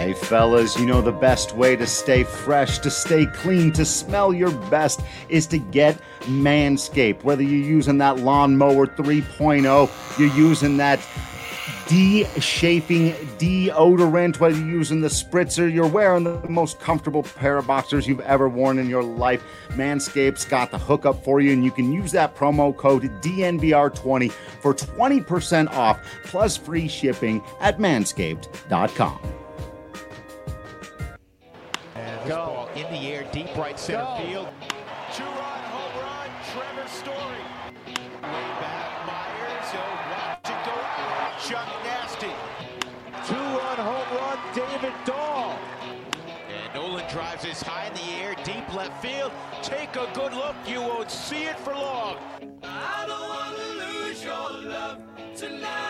Hey fellas, you know the best way to stay fresh, to stay clean, to smell your best is to get Manscaped. Whether you're using that lawnmower 3.0, you're using that de-shaping deodorant, whether you're using the spritzer, you're wearing the most comfortable pair of boxers you've ever worn in your life, Manscaped's got the hookup for you, and you can use that promo code DNVR20 for 20% off plus free shipping at manscaped.com. Ball in the air, deep right center field. Two-run home run, Trevor Story. Way back, Myers. Watch it go. Chuck Nasty. Two-run home run, David Dahl. And Nolan drives this high in the air, deep left field. Take a good look. You won't see it for long. I don't want to lose your love tonight.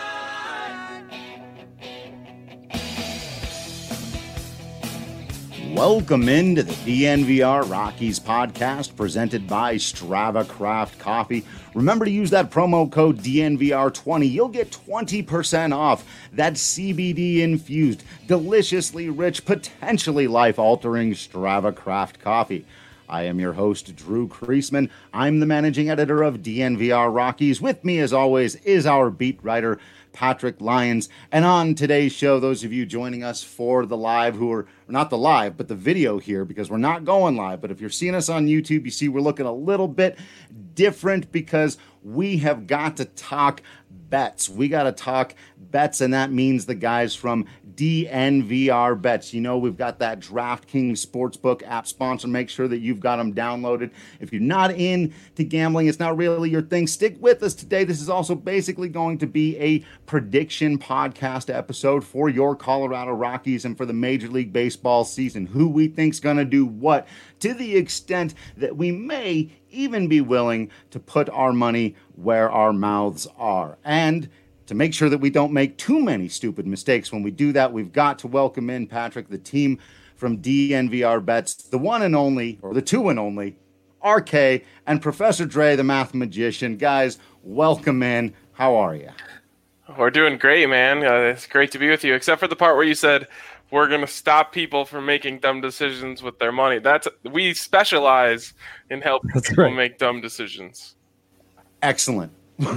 Welcome into the DNVR Rockies podcast presented by Strava Craft Coffee. Remember to use that promo code DNVR20. You'll get 20% off that CBD infused, deliciously rich, potentially life-altering Strava Craft Coffee. I am your host, Drew Kreisman. I'm the managing editor of DNVR Rockies. With me, as always, is our beat writer, Patrick Lyons. And on today's show, those of you joining us for the live, who are not the live, but the video here, because we're not going live. But if you're seeing us on YouTube, you see we're looking a little bit different because we have got to talk bets. We got to talk bets, and that means the guys from DNVR Bets. You know, we've got that DraftKings Sportsbook app sponsor. Make sure that you've got them downloaded. If you're not into gambling, it's not really your thing, stick with us today. This is also basically going to be a prediction podcast episode for your Colorado Rockies and for the Major League Baseball season. Who we think's going to do what, to the extent that we may even be willing to put our money where our mouths are. And to make sure that we don't make too many stupid mistakes when we do that, we've got to welcome in, Patrick, the team from DNVR Bets, the one and only, or the two and only, RK, and Professor Dre, the math magician. Guys, welcome in. How are you? We're doing great, man. It's great to be with you, except for the part where you said we're going to stop people from making dumb decisions with their money. We specialize in helping people make dumb decisions. Excellent.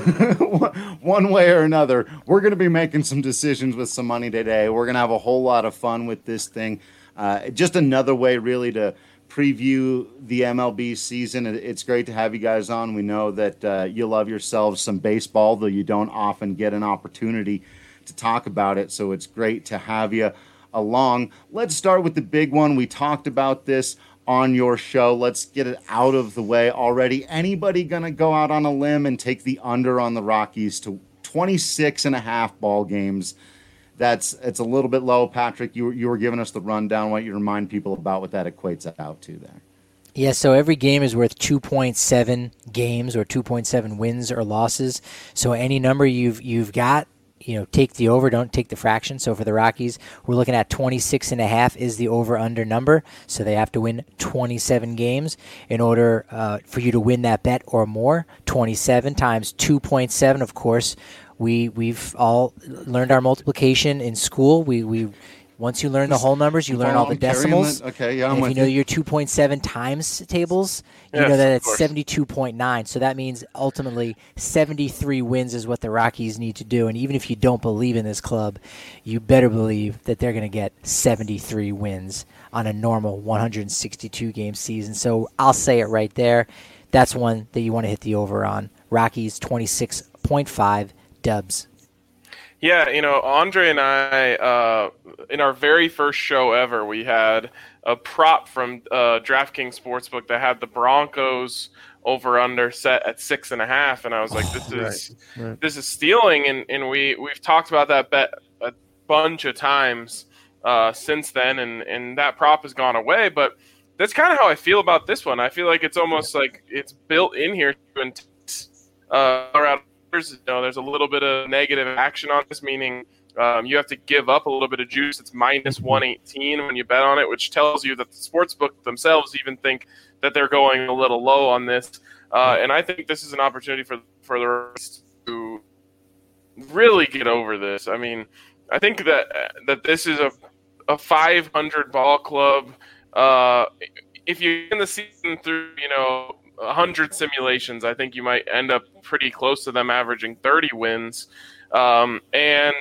One way or another, we're going to be making some decisions with some money today. We're going to have a whole lot of fun with this thing. Just another way, really, to preview the MLB season. It's great to have you guys on. We know that you love yourselves some baseball, though you don't often get an opportunity to talk about it. So it's great to have you along. Let's start with the big one. We talked about this on your show. Let's get it out of the way already. Anybody going to go out on a limb and take the under on the Rockies to 26.5 ball games? It's a little bit low. Patrick, you were giving us the rundown. I want you to remind people about what that equates out to there. Yeah, so every game is worth 2.7 games or 2.7 wins or losses. So any number you've got, take the over, don't take the fraction. So for the Rockies, we're looking at 26.5 is the over-under number. So they have to win 27 games in order for you to win that bet or more. 27 times 2.7, of course. We've all learned our multiplication in school. We once you learn the whole numbers, you learn all the decimals. Okay, yeah, if you know your 2.7 times tables, you know that it's 72.9. So that means ultimately 73 wins is what the Rockies need to do. And even if you don't believe in this club, you better believe that they're going to get 73 wins on a normal 162-game season. So I'll say it right there. That's one that you want to hit the over on. Rockies 26.5 dubs. Yeah, Andre and I, in our very first show ever, we had a prop from DraftKings Sportsbook that had the Broncos over/under set at 6.5, and I was like, "This is stealing." And we've talked about that bet a bunch of times since then, and that prop has gone away. But that's kind of how I feel about this one. I feel like it's almost like it's built in here to entice Colorado. There's a little bit of negative action on this, meaning you have to give up a little bit of juice. It's minus 118 when you bet on it, which tells you that the sportsbook themselves even think that they're going a little low on this. And I think this is an opportunity for the rest to really get over this. I mean, I think that this is a 500 ball club. If you end the season through 100 simulations, I think you might end up pretty close to them averaging 30 wins. And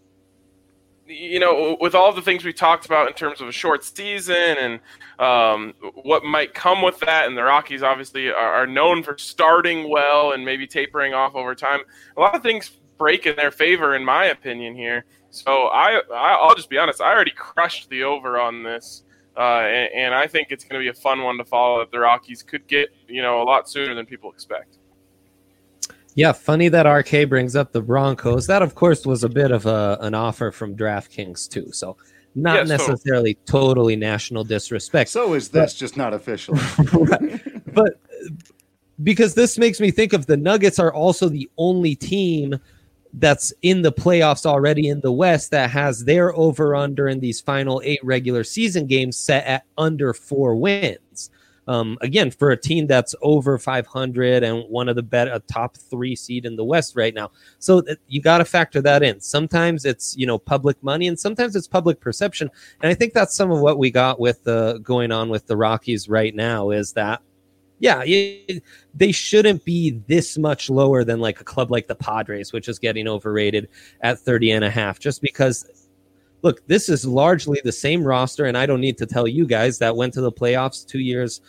with all the things we talked about in terms of a short season and what might come with that, and the Rockies obviously are known for starting well and maybe tapering off over time, a lot of things break in their favor, in my opinion, here. So I'll just be honest, I already crushed the over on this. And I think it's going to be a fun one to follow that the Rockies could get, a lot sooner than people expect. Yeah, funny that RK brings up the Broncos. That, of course, was a bit of an offer from DraftKings, too. So not necessarily totally national disrespect. So is this just not official? Right. But because this makes me think of the Nuggets are also the only team that's in the playoffs already in the West that has their over-under in these final 8 regular season games set at under 4 wins. Again, for a team that's over 500 and one of the better top 3 seed in the West right now. So you got to factor that in. Sometimes it's, public money and sometimes it's public perception. And I think that's some of what we got with going on with the Rockies right now is that, yeah, they shouldn't be this much lower than like a club like the Padres, which is getting overrated at 30.5, just because, look, this is largely the same roster, and I don't need to tell you guys that went to the playoffs 2 years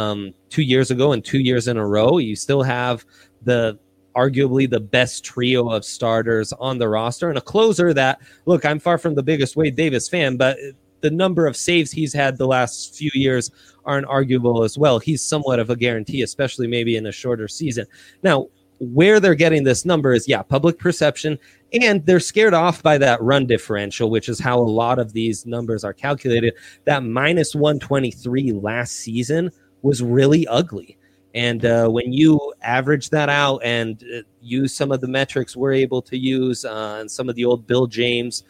ago and 2 years in a row. You still have arguably the best trio of starters on the roster and a closer that, look, I'm far from the biggest Wade Davis fan, but the number of saves he's had the last few years aren't arguable as well. He's somewhat of a guarantee, especially maybe in a shorter season. Now, where they're getting this number is, public perception, and they're scared off by that run differential, which is how a lot of these numbers are calculated. That minus 123 last season was really ugly. And when you average that out and use some of the metrics we're able to use and some of the old Bill James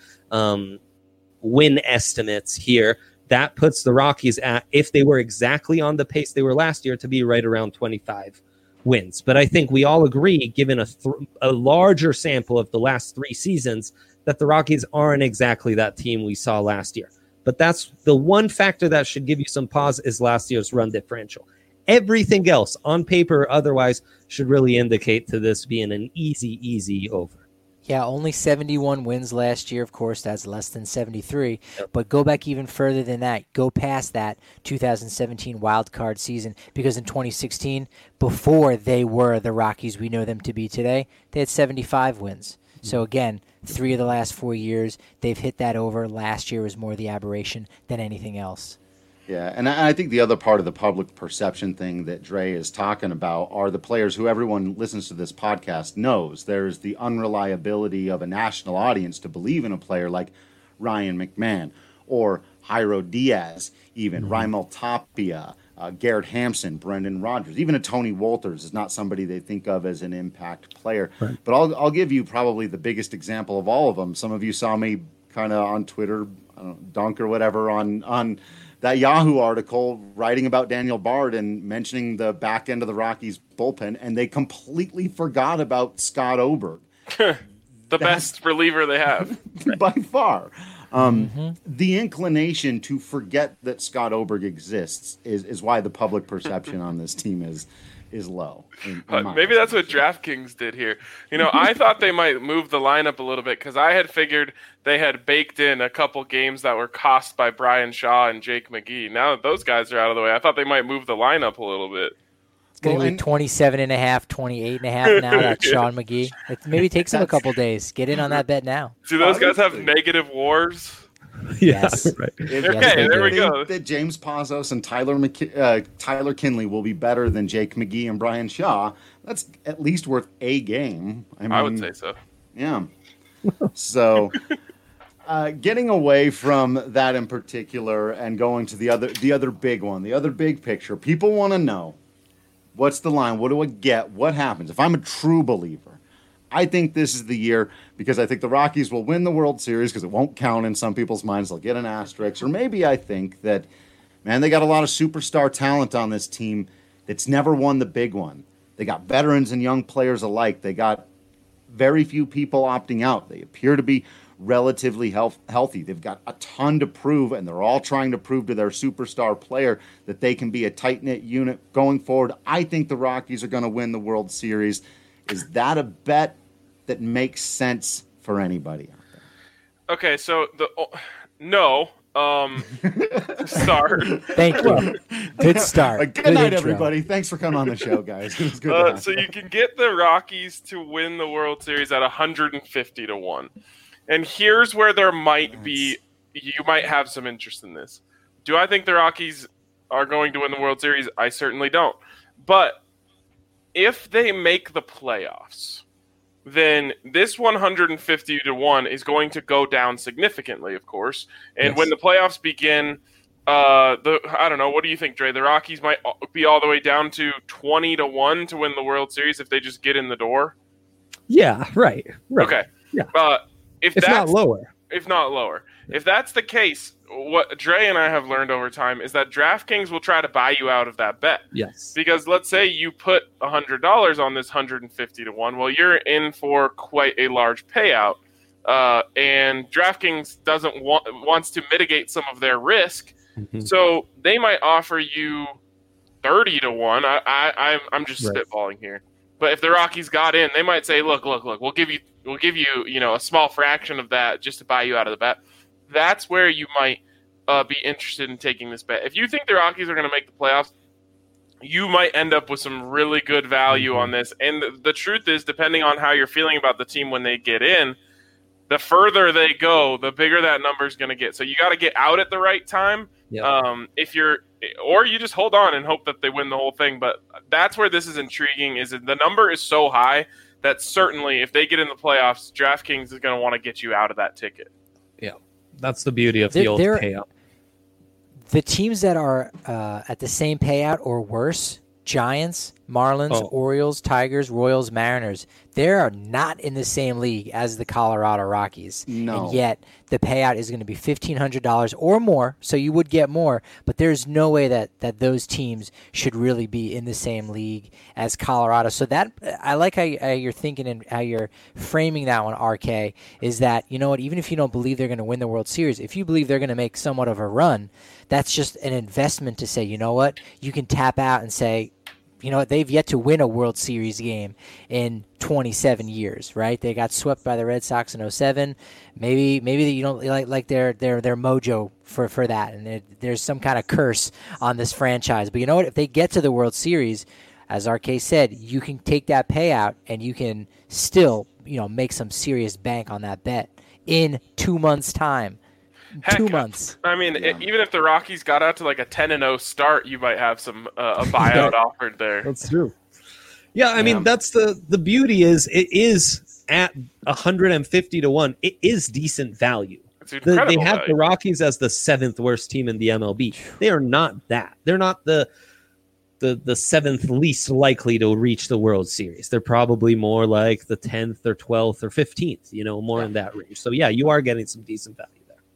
win estimates here, that puts the Rockies at, if they were exactly on the pace they were last year, to be right around 25 wins. But I think we all agree, given a larger sample of the last 3 seasons, that the Rockies aren't exactly that team we saw last year. But that's the one factor that should give you some pause is last year's run differential. Everything else, on paper or otherwise, should really indicate to this being an easy over. Yeah, only 71 wins last year. Of course, that's less than 73. Yep. But go back even further than that. Go past that 2017 wild card season, because in 2016, before they were the Rockies we know them to be today, they had 75 wins. Mm-hmm. So again, 3 of the last 4 years, they've hit that over. Last year was more the aberration than anything else. Yeah, and I think the other part of the public perception thing that Dre is talking about are the players who everyone listens to this podcast knows. There's the unreliability of a national audience to believe in a player like Ryan McMahon or Jairo Diaz, even Raimel Tapia, Garrett Hampson, Brendan Rodgers, even a Tony Wolters is not somebody they think of as an impact player. Right. But I'll give you probably the biggest example of all of them. Some of you saw me kind of on Twitter, dunk or whatever, on that Yahoo article writing about Daniel Bard and mentioning the back end of the Rockies bullpen, and they completely forgot about Scott Oberg. The best reliever they have. By far. The inclination to forget that Scott Oberg exists is why the public perception on this team is low. Maybe that's what DraftKings did here. I thought they might move the lineup a little bit because I had figured they had baked in a couple games that were cost by Brian Shaw and Jake McGee. Now that those guys are out of the way, I thought they might move the lineup a little bit. It's going to be 27.5, 28.5 now. That's Sean McGee. Maybe it takes him a couple days. Get in on that bet now. Do those guys have negative WARs? Yes. Right. Okay, there we go. That James Pazos and Tyler Kinley will be better than Jake McGee and Brian Shaw. That's at least worth a game. I would say so. Yeah. So, getting away from that in particular and going to the other big one, the other big picture. People want to know, what's the line? What do I get? What happens? If I'm a true believer, I think this is the year, because I think the Rockies will win the World Series because it won't count in some people's minds. They'll get an asterisk. Or maybe I think that, man, they got a lot of superstar talent on this team that's never won the big one. They got veterans and young players alike. They got very few people opting out. They appear to be relatively healthy. They've got a ton to prove, and they're all trying to prove to their superstar player that they can be a tight-knit unit going forward. I think the Rockies are going to win the World Series. Is that a bet that makes sense for anybody out there? Okay, so no. Start. Thank you. Good start. Good night, intro. everybody. Thanks for coming on the show, guys. It was good. So you can get the Rockies to win the World Series at 150 to 1. And here's where there might be, you might have some interest in this. Do I think the Rockies are going to win the World Series? I certainly don't. But if they make the playoffs, then this 150 to 1 is going to go down significantly, of course. And when the playoffs begin, I don't know, what do you think, Dre? The Rockies might be all the way down to 20 to 1 to win the World Series if they just get in the door? Yeah, right. Okay. Yeah. If not lower. If not lower. If that's the case, what Dre and I have learned over time is that DraftKings will try to buy you out of that bet. Yes. Because let's say you put $100 on this 150 to 1. Well, you're in for quite a large payout. And DraftKings wants to mitigate some of their risk. Mm-hmm. So they might offer you 30 to 1. I'm just spitballing here. But if the Rockies got in, they might say, look, we'll give you, a small fraction of that just to buy you out of the bet. That's where you might be interested in taking this bet. If you think the Rockies are going to make the playoffs, you might end up with some really good value on this. And the truth is, depending on how you're feeling about the team when they get in, the further they go, the bigger that number is going to get. So you got to get out at the right time. Yep. Or you just hold on and hope that they win the whole thing. But that's where this is intriguing, is that the number is so high that certainly if they get in the playoffs, DraftKings is going to want to get you out of that ticket. Yeah, that's the beauty of the old payout. The teams that are at the same payout or worse, Giants, Marlins, Orioles, Tigers, Royals, Mariners, they are not in the same league as the Colorado Rockies. No. And yet the payout is going to be $1,500 or more, so you would get more, but there's no way that those teams should really be in the same league as Colorado. So that I like how you're thinking and how you're framing that one, RK, is that, you know what, even if you don't believe they're going to win the World Series, if you believe they're going to make somewhat of a run, that's just an investment to say, you know what, you can tap out and say, you know what, they've yet to win a World Series game in 27 years, right? They got swept by the Red Sox in 2007. Maybe you don't like their mojo for that, and there's some kind of curse on this franchise. But you know what? If they get to the World Series, as RK said, you can take that payout and you can still, make some serious bank on that bet in 2 months' time. Heck, 2 months. I mean, even if the Rockies got out to like a 10-0 start, you might have some a buyout offered there. That's true. Yeah, I mean, that's the beauty is it is at 150 to 1. It is decent value. They have value. The Rockies as the 7th worst team in the MLB. They are not that. They're not the 7th least likely to reach the World Series. They're probably more like the 10th or 12th or 15th, more in that range. So, yeah, you are getting some decent value.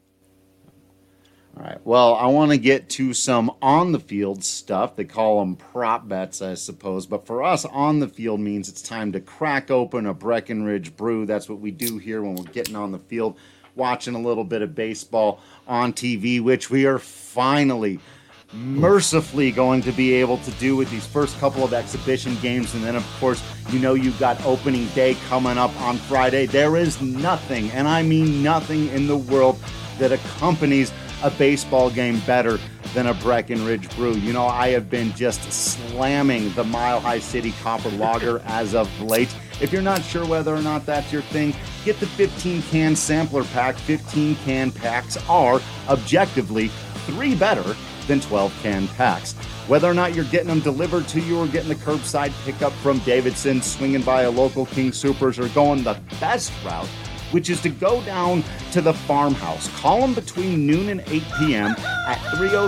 All right. Well, I want to get to some on-the-field stuff. They call them prop bets, I suppose. But for us, on-the-field means it's time to crack open a Breckenridge brew. That's what we do here when we're getting on the field, watching a little bit of baseball on TV, which we are finally, mercifully going to be able to do with these first couple of exhibition games. And then, of course, you've got opening day coming up on Friday. There is nothing, and I mean nothing in the world that accompanies a baseball game better than a Breckenridge brew. I have been just slamming the Mile High City Copper Lager as of late. If you're not sure whether or not that's your thing, get the 15-can sampler pack. 15-can packs are, objectively, 3 better than 12-can packs. Whether or not you're getting them delivered to you or getting the curbside pickup from Davidson, swinging by a local King Soopers, or going the best route, which is to go down to the farmhouse. Call them between noon and 8 p.m. at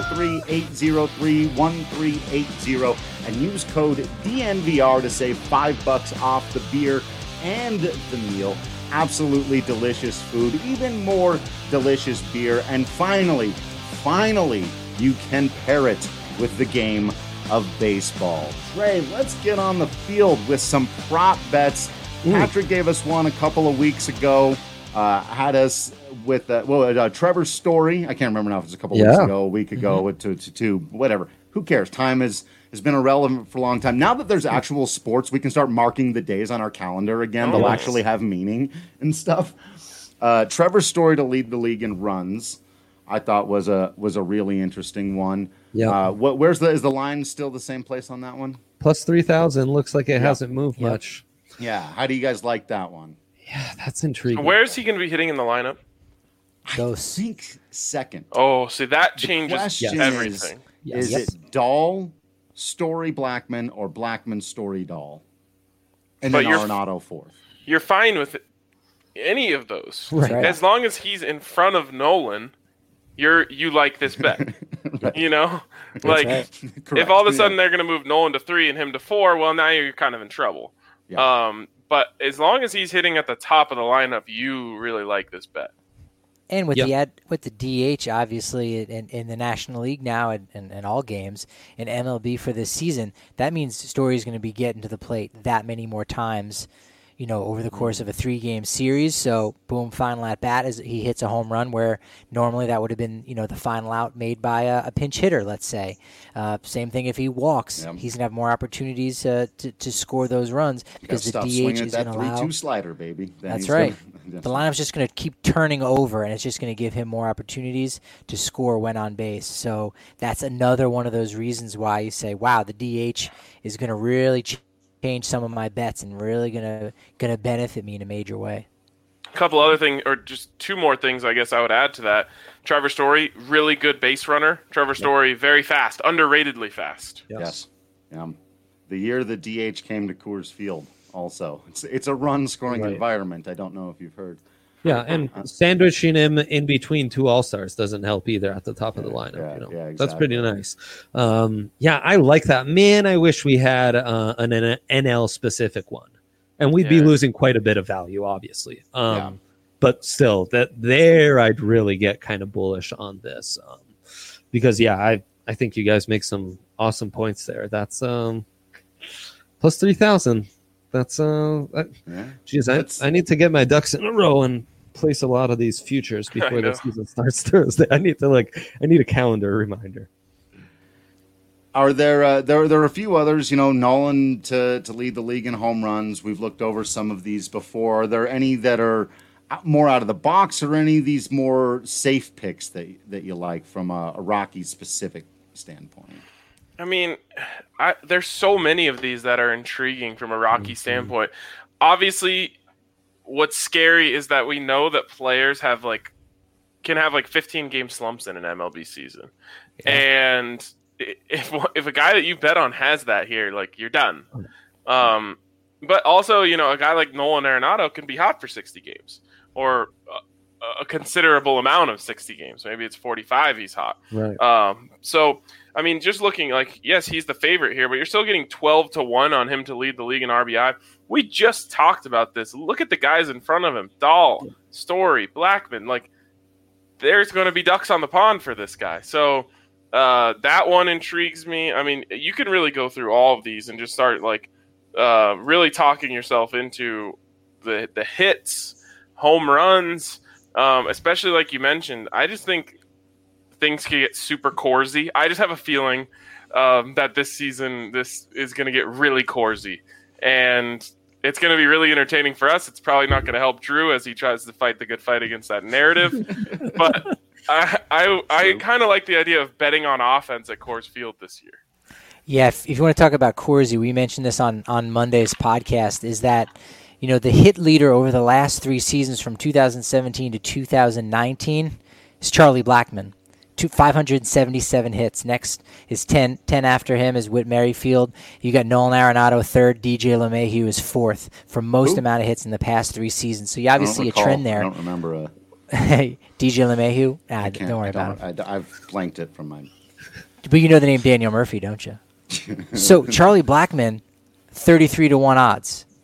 303-803-1380 and use code DNVR to save $5 off the beer and the meal. Absolutely delicious food, even more delicious beer. And finally, you can pair it with the game of baseball. Trey, let's get on the field with some prop bets. Patrick gave us one a couple of weeks ago. had us with Trevor Story. I can't remember now if it's a couple weeks ago, a week ago, to two, whatever. Who cares? Time has been irrelevant for a long time. Now that there's actual sports, we can start marking the days on our calendar again. They'll actually have meaning and stuff. Trevor Story to lead the league in runs, I thought was a really interesting one. Yeah. Is the line still the same place on that one? Plus 3,000. Looks like it hasn't moved much. Yeah. How do you guys like that one? Yeah, that's intriguing. So where is he going to be hitting in the lineup? I think second. Oh, see, that changes everything. Is it Dahl, Story, Blackman, or Blackman, Story, Dahl? And then Arenado fourth. You're fine with any of those. Right. As long as he's in front of Nolan, you like this bet. Right. You know? Like, if all of a sudden they're going to move Nolan to 3 and him to 4, well, now you're kind of in trouble. Yeah. But as long as he's hitting at the top of the lineup, you really like this bet. And with the DH, obviously, in the National League now and all games, in MLB for this season, that means Story is going to be getting to the plate that many more times, over the course of a 3-game series. So, boom, final at bat as he hits a home run where normally that would have been, the final out made by a pinch hitter, let's say. Same thing if he walks. Yep. He's going to have more opportunities to score those runs because the DH is going to allow... 3-2 slider, baby. That's right. The lineup's just going to keep turning over, and it's just going to give him more opportunities to score when on base. So that's another one of those reasons why you say, wow, the DH is going to really change some of my bets and really going to benefit me in a major way. A couple other things, or just 2 more things I guess I would add to that. Trevor Story, really good base runner. Trevor Story, very fast, underratedly fast. Yes. The year the DH came to Coors Field also. It's a run-scoring environment. I don't know if you've heard. Yeah, and sandwiching him in between 2 All-Stars doesn't help either at the top of the lineup. Exactly. That's pretty nice. I like that. Man, I wish we had an NL-specific one. And we'd be losing quite a bit of value, obviously. But still, I'd really get kind of bullish on this. Because, I think you guys make some awesome points there. That's plus 3,000. That's I need to get my ducks in a row and place a lot of these futures before the season starts Thursday. I need a calendar reminder. Are there there are a few others, Nolan to lead the league in home runs. We've looked over some of these before. Are there any that are more out of the box, or any of these more safe picks that you like from a Rockies specific standpoint? I mean, there's so many of these that are intriguing from a Rocky standpoint. Obviously, what's scary is that we know that players can have 15-game slumps in an MLB season. Yeah. And if a guy that you bet on has that here, you're done. But also, a guy like Nolan Arenado can be hot for 60 games or a considerable amount of 60 games. Maybe it's 45 he's hot. Right. So, I mean, just looking yes, he's the favorite here, but you're still getting 12-1 on him to lead the league in RBI. We just talked about this. Look at the guys in front of him. Dahl, Story, Blackman. There's going to be ducks on the pond for this guy. So that one intrigues me. I mean, you can really go through all of these and just start really talking yourself into the hits, home runs, especially like you mentioned. I just think things can get super Corsy. I just have a feeling that this season this is going to get really Corsy, and it's going to be really entertaining for us. It's probably not going to help Drew as he tries to fight the good fight against that narrative. But I kind of like the idea of betting on offense at Coors Field this year. Yeah, if you want to talk about Corsy, we mentioned this on Monday's podcast, is that the hit leader over the last 3 seasons from 2017 to 2019 is Charlie Blackman. 577 hits. Next is 10 after him is Whit Merrifield. You got Nolan Arenado third. DJ LeMahieu is fourth for most amount of hits in the past 3 seasons. So you obviously see a trend there. I don't remember DJ LeMahieu? Don't worry about it. I've blanked it from my... But you know the name Daniel Murphy, don't you? So Charlie Blackman, 33-1 odds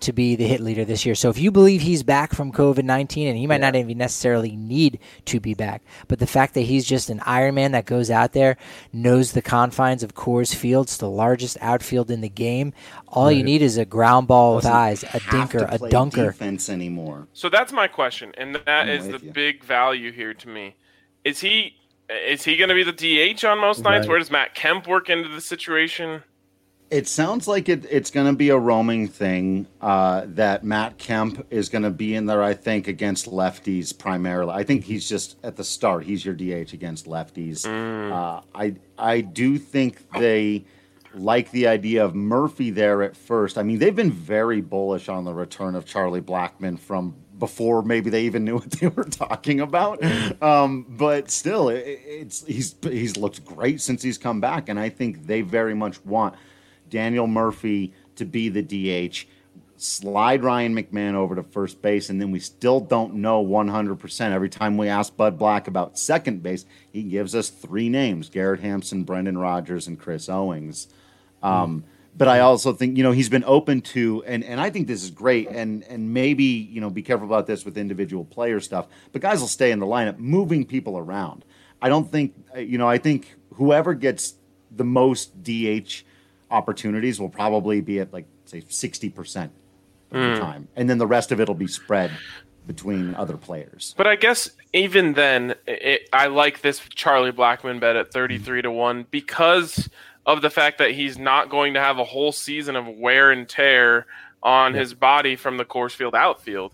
to be the hit leader this year. So if you believe he's back from COVID-19, and he might not even necessarily need to be back, but the fact that he's just an Ironman that goes out there, knows the confines of Coors Field, it's the largest outfield in the game. All you need is a ground ball with eyes, a dinker, a dunker. Defense anymore. So that's my question, and that is the big value here to me. Is he going to be the DH on most nights? Where does Matt Kemp work into the situation? It sounds like it's going to be a roaming thing, that Matt Kemp is going to be in there, I think, against lefties primarily. I think he's just, at the start, he's your DH against lefties. I do think they like the idea of Murphy there at first. I mean, they've been very bullish on the return of Charlie Blackmon from before maybe they even knew what they were talking about. But still, he's looked great since he's come back, and I think they very much want Daniel Murphy to be the DH, slide Ryan McMahon over to first base, and then we still don't know 100%. Every time we ask Bud Black about second base, he gives us 3 names: Garrett Hampson, Brendan Rodgers, and Chris Owings. But I also think, he's been open to, and I think this is great, and maybe, be careful about this with individual player stuff, but guys will stay in the lineup, moving people around. I don't think, I think whoever gets the most DH opportunities will probably be at, like, say, 60% of the time. And then the rest of it will be spread between other players. But I guess even then, I like this Charlie Blackmon bet at 33-1 because of the fact that he's not going to have a whole season of wear and tear on his body from the Coors Field outfield.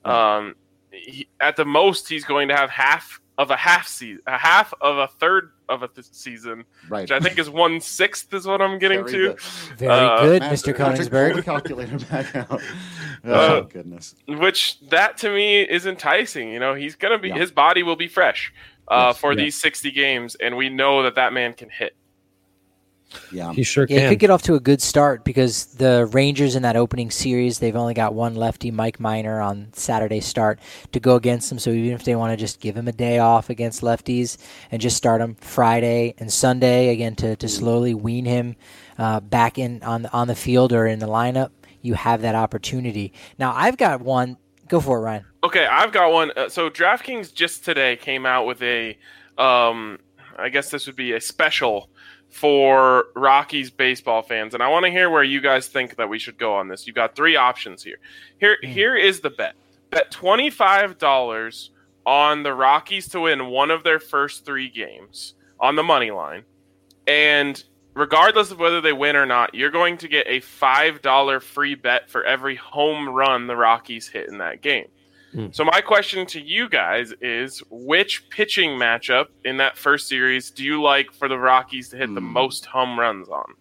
At the most, he's going to have half of a third of a season, which I think is 1/6 is what I'm getting to. Very good, Mr. Koenigsberg. Pull the calculator back out. Oh, goodness. Which that to me is enticing. He's going to be, his body will be fresh for these 60 games, and we know that man can hit. Yeah, he sure can. He could get off to a good start because the Rangers in that opening series, they've only got one lefty, Mike Minor, on Saturday start to go against them. So even if they want to just give him a day off against lefties and just start him Friday and Sunday again to slowly wean him back in on the field or in the lineup, you have that opportunity. Now I've got one. Go for it, Ryan. Okay, I've got one. So DraftKings just today came out with a, I guess this would be a special for Rockies baseball fans, and I want to hear where you guys think that we should go on this. You've got 3 options here. Here is the bet. Bet $25 on the Rockies to win one of their first 3 games on the money line, and regardless of whether they win or not, you're going to get a $5 free bet for every home run the Rockies hit in that game. So my question to you guys is, which pitching matchup in that first series do you like for the Rockies to hit the most home runs on?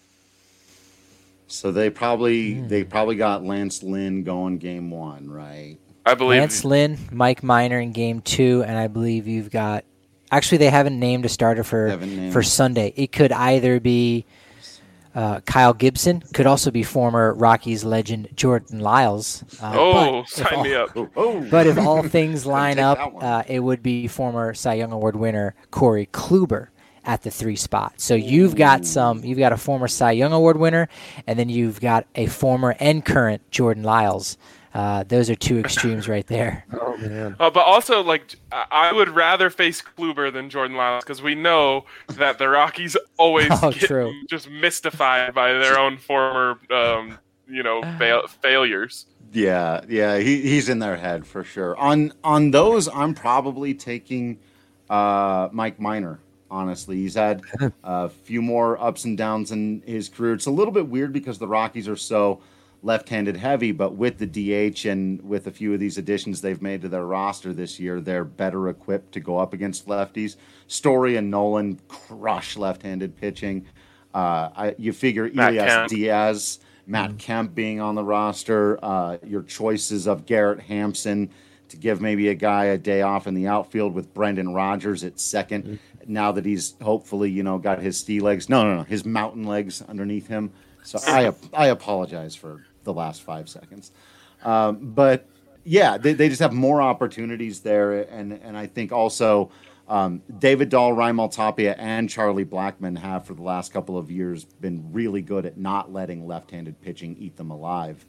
So they probably got Lance Lynn going game 1, right? I believe Lance Lynn, Mike Minor in game 2, and I believe you've got. Actually, they haven't named a starter for Sunday. It could either be Kyle Gibson, could also be former Rockies legend Jordan Lyles. Sign me up. But if all things line up, it would be former Cy Young Award winner Corey Kluber at the 3 spot. So you've got a former Cy Young Award winner, and then you've got a former and current Jordan Lyles. Those are 2 extremes right there. Oh man! But also, I would rather face Kluber than Jordan Lyles because we know that the Rockies always get just mystified by their own former, failures. Yeah, he's in their head for sure. On those, I'm probably taking Mike Minor. Honestly, he's had a few more ups and downs in his career. It's a little bit weird because the Rockies are so left-handed heavy, but with the DH and with a few of these additions they've made to their roster this year, they're better equipped to go up against lefties. Story and Nolan crush left-handed pitching. You figure Elias Diaz, Matt Kemp being on the roster, your choices of Garrett Hampson to give maybe a guy a day off in the outfield with Brendan Rodgers at second. Now that he's hopefully, got his his mountain legs underneath him. So I apologize for the last 5 seconds. But yeah, they just have more opportunities there. And I think also David Dahl, Raimel Tapia, and Charlie Blackmon have for the last couple of years been really good at not letting left-handed pitching eat them alive.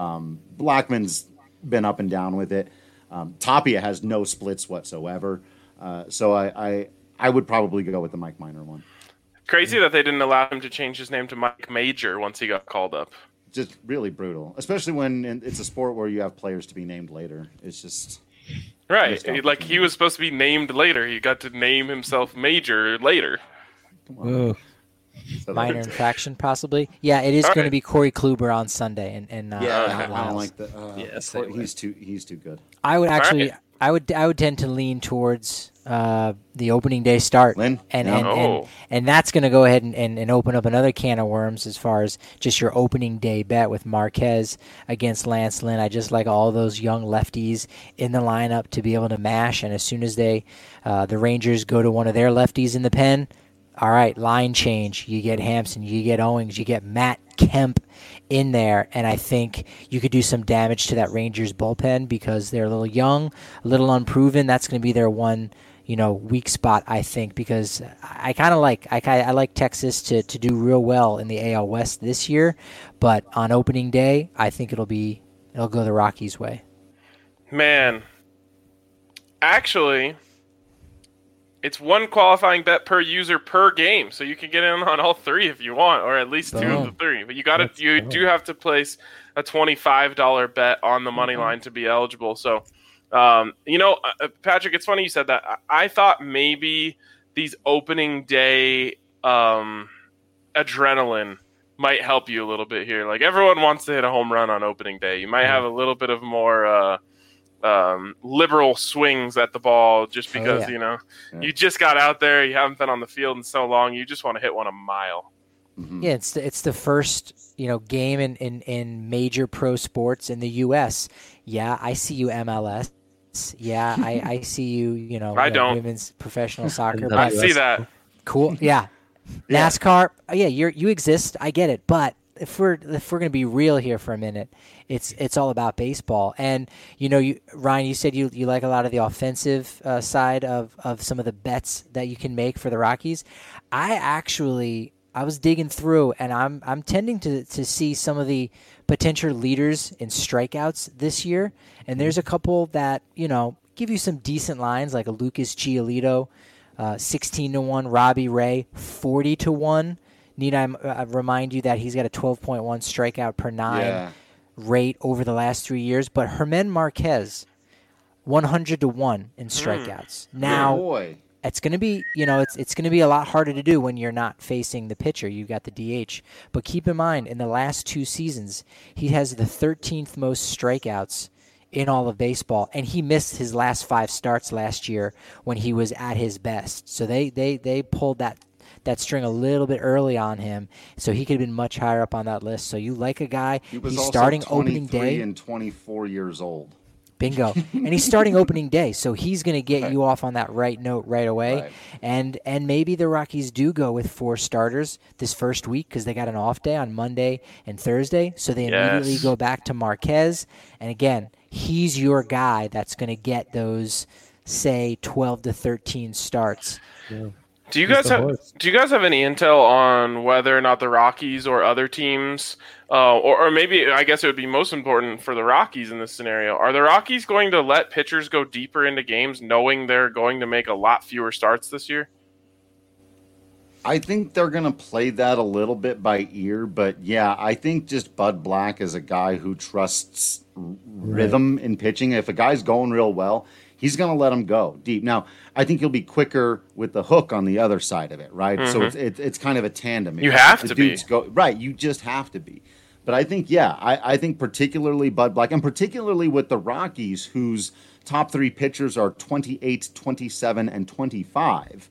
Blackman's been up and down with it. Tapia has no splits whatsoever. So I would probably go with the Mike Minor one. Crazy that they didn't allow him to change his name to Mike Major once he got called up. Just really brutal, especially when it's a sport where you have players to be named later. It's just right. Like he was supposed to be named later. He got to name himself Major later. So Minor infraction, possibly. Yeah, it is going to be Corey Kluber on Sunday, and I don't like the. Yes, he's too good. I would actually, I would tend to lean towards the opening day start, Lynn? and that's going to go ahead and open up another can of worms as far as just your opening day bet with Marquez against Lance Lynn. I just like all those young lefties in the lineup to be able to mash, and as soon as the Rangers go to one of their lefties in the pen, all right, line change. You get Hampson, you get Owings, you get Matt Kemp in there, and I think you could do some damage to that Rangers bullpen because they're a little young, a little unproven. That's going to be their one, weak spot, I think, because I kind of I like Texas to do real well in the AL West this year, but on opening day, I think it'll go the Rockies' way. Man, actually, it's one qualifying bet per user per game, so you can get in on all three if you want, or at least two of the three. But you do have to place a $25 bet on the money line to be eligible. So, Patrick, it's funny you said that. I thought maybe these opening day adrenaline might help you a little bit here. Like everyone wants to hit a home run on opening day. You might have a little bit of more liberal swings at the ball just because you just got out there, you haven't been on the field in so long, you just want to hit one a mile. Mm-hmm. Yeah, it's the first game in major pro sports in the U.S. Yeah, I see you MLS. Yeah, I see you. I don't. Women's professional soccer. I see that. Cool. Yeah. NASCAR. Yeah, you exist. I get it, but if we're going to be real here for a minute, it's all about baseball. And Ryan, you said you like a lot of the offensive side of some of the bets that you can make for the Rockies. I was digging through, and I'm tending to see some of the potential leaders in strikeouts this year. And there's a couple that give you some decent lines, like a Lucas Giolito, 16-1, Robbie Ray, 40-1. Need I remind you that he's got a 12.1 strikeout per nine rate over the last 3 years, but Germán Marquez, 100-1 in strikeouts. Now, it's going to be, it's going to be a lot harder to do when you're not facing the pitcher. You've got the DH. But keep in mind, in the last 2 seasons, he has the 13th most strikeouts in all of baseball, and he missed his last 5 starts last year when he was at his best. So they pulled that string a little bit early on him, so he could have been much higher up on that list. So you like a guy, he's starting opening day and 24 years old. Bingo. And he's starting opening day, so he's going to get you off on that right note right away. Right. And maybe the Rockies do go with 4 starters this first week because they got an off day on Monday and Thursday, so they immediately go back to Marquez. And again, he's your guy that's going to get those, say, 12 to 13 starts. Yeah. Do you guys have any intel on whether or not the Rockies or other teams, or maybe I guess it would be most important for the Rockies in this scenario, are the Rockies going to let pitchers go deeper into games knowing they're going to make a lot fewer starts this year? I think they're going to play that a little bit by ear, but yeah, I think just Bud Black is a guy who trusts rhythm in pitching. If a guy's going real well, he's going to let him go deep. Now, I think he'll be quicker with the hook on the other side of it, right? Mm-hmm. So it's kind of a tandem. You have to be. Right, you just have to be. But I think, I think particularly Bud Black, and particularly with the Rockies, whose top 3 pitchers are 28, 27, and 25,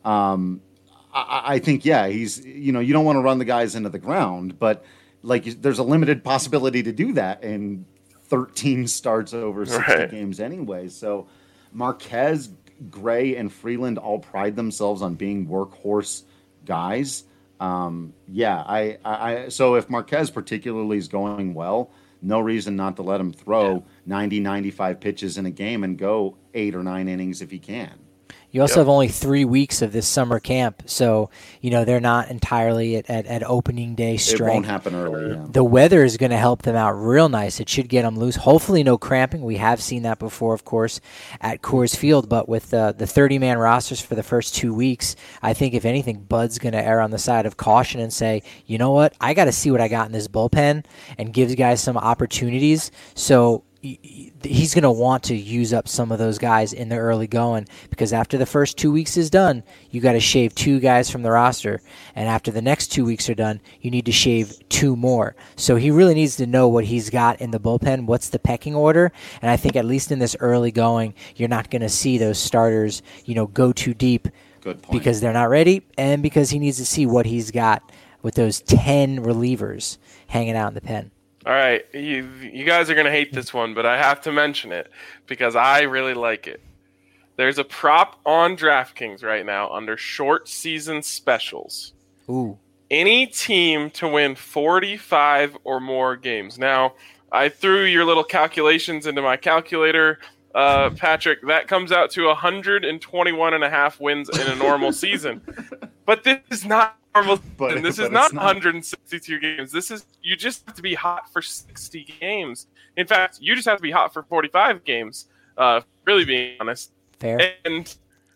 I think, he's, you don't want to run the guys into the ground, but like there's a limited possibility to do that in 13 starts over 60 games anyway. So Marquez, Gray, and Freeland all pride themselves on being workhorse guys. So if Marquez particularly is going well, no reason not to let him throw 90, 95 pitches in a game and go 8 or 9 innings if he can. You also have only 3 weeks of this summer camp, so they're not entirely at opening day strength. It won't happen early. Yeah. The weather is going to help them out real nice. It should get them loose. Hopefully, no cramping. We have seen that before, of course, at Coors Field. But with the 30-man rosters for the first 2 weeks, I think if anything, Bud's going to err on the side of caution and say, you know what, I got to see what I got in this bullpen, and gives guys some opportunities. So he's going to want to use up some of those guys in the early going, because after the first 2 weeks is done, you got to shave 2 guys from the roster. And after the next 2 weeks are done, you need to shave 2 more. So he really needs to know what he's got in the bullpen, what's the pecking order. And I think at least in this early going, you're not going to see those starters, go too deep. Good point. Because they're not ready, and because he needs to see what he's got with those 10 relievers hanging out in the pen. All right, you guys are going to hate this one, but I have to mention it because I really like it. There's a prop on DraftKings right now under short season specials. Ooh. Any team to win 45 or more games. Now, I threw your little calculations into my calculator, Patrick. That comes out to 121.5 wins in a normal season. But this is not normal. This is not 162 games. You just have to be hot for 60 games. In fact, you just have to be hot for 45 games. Really being honest. Fair. And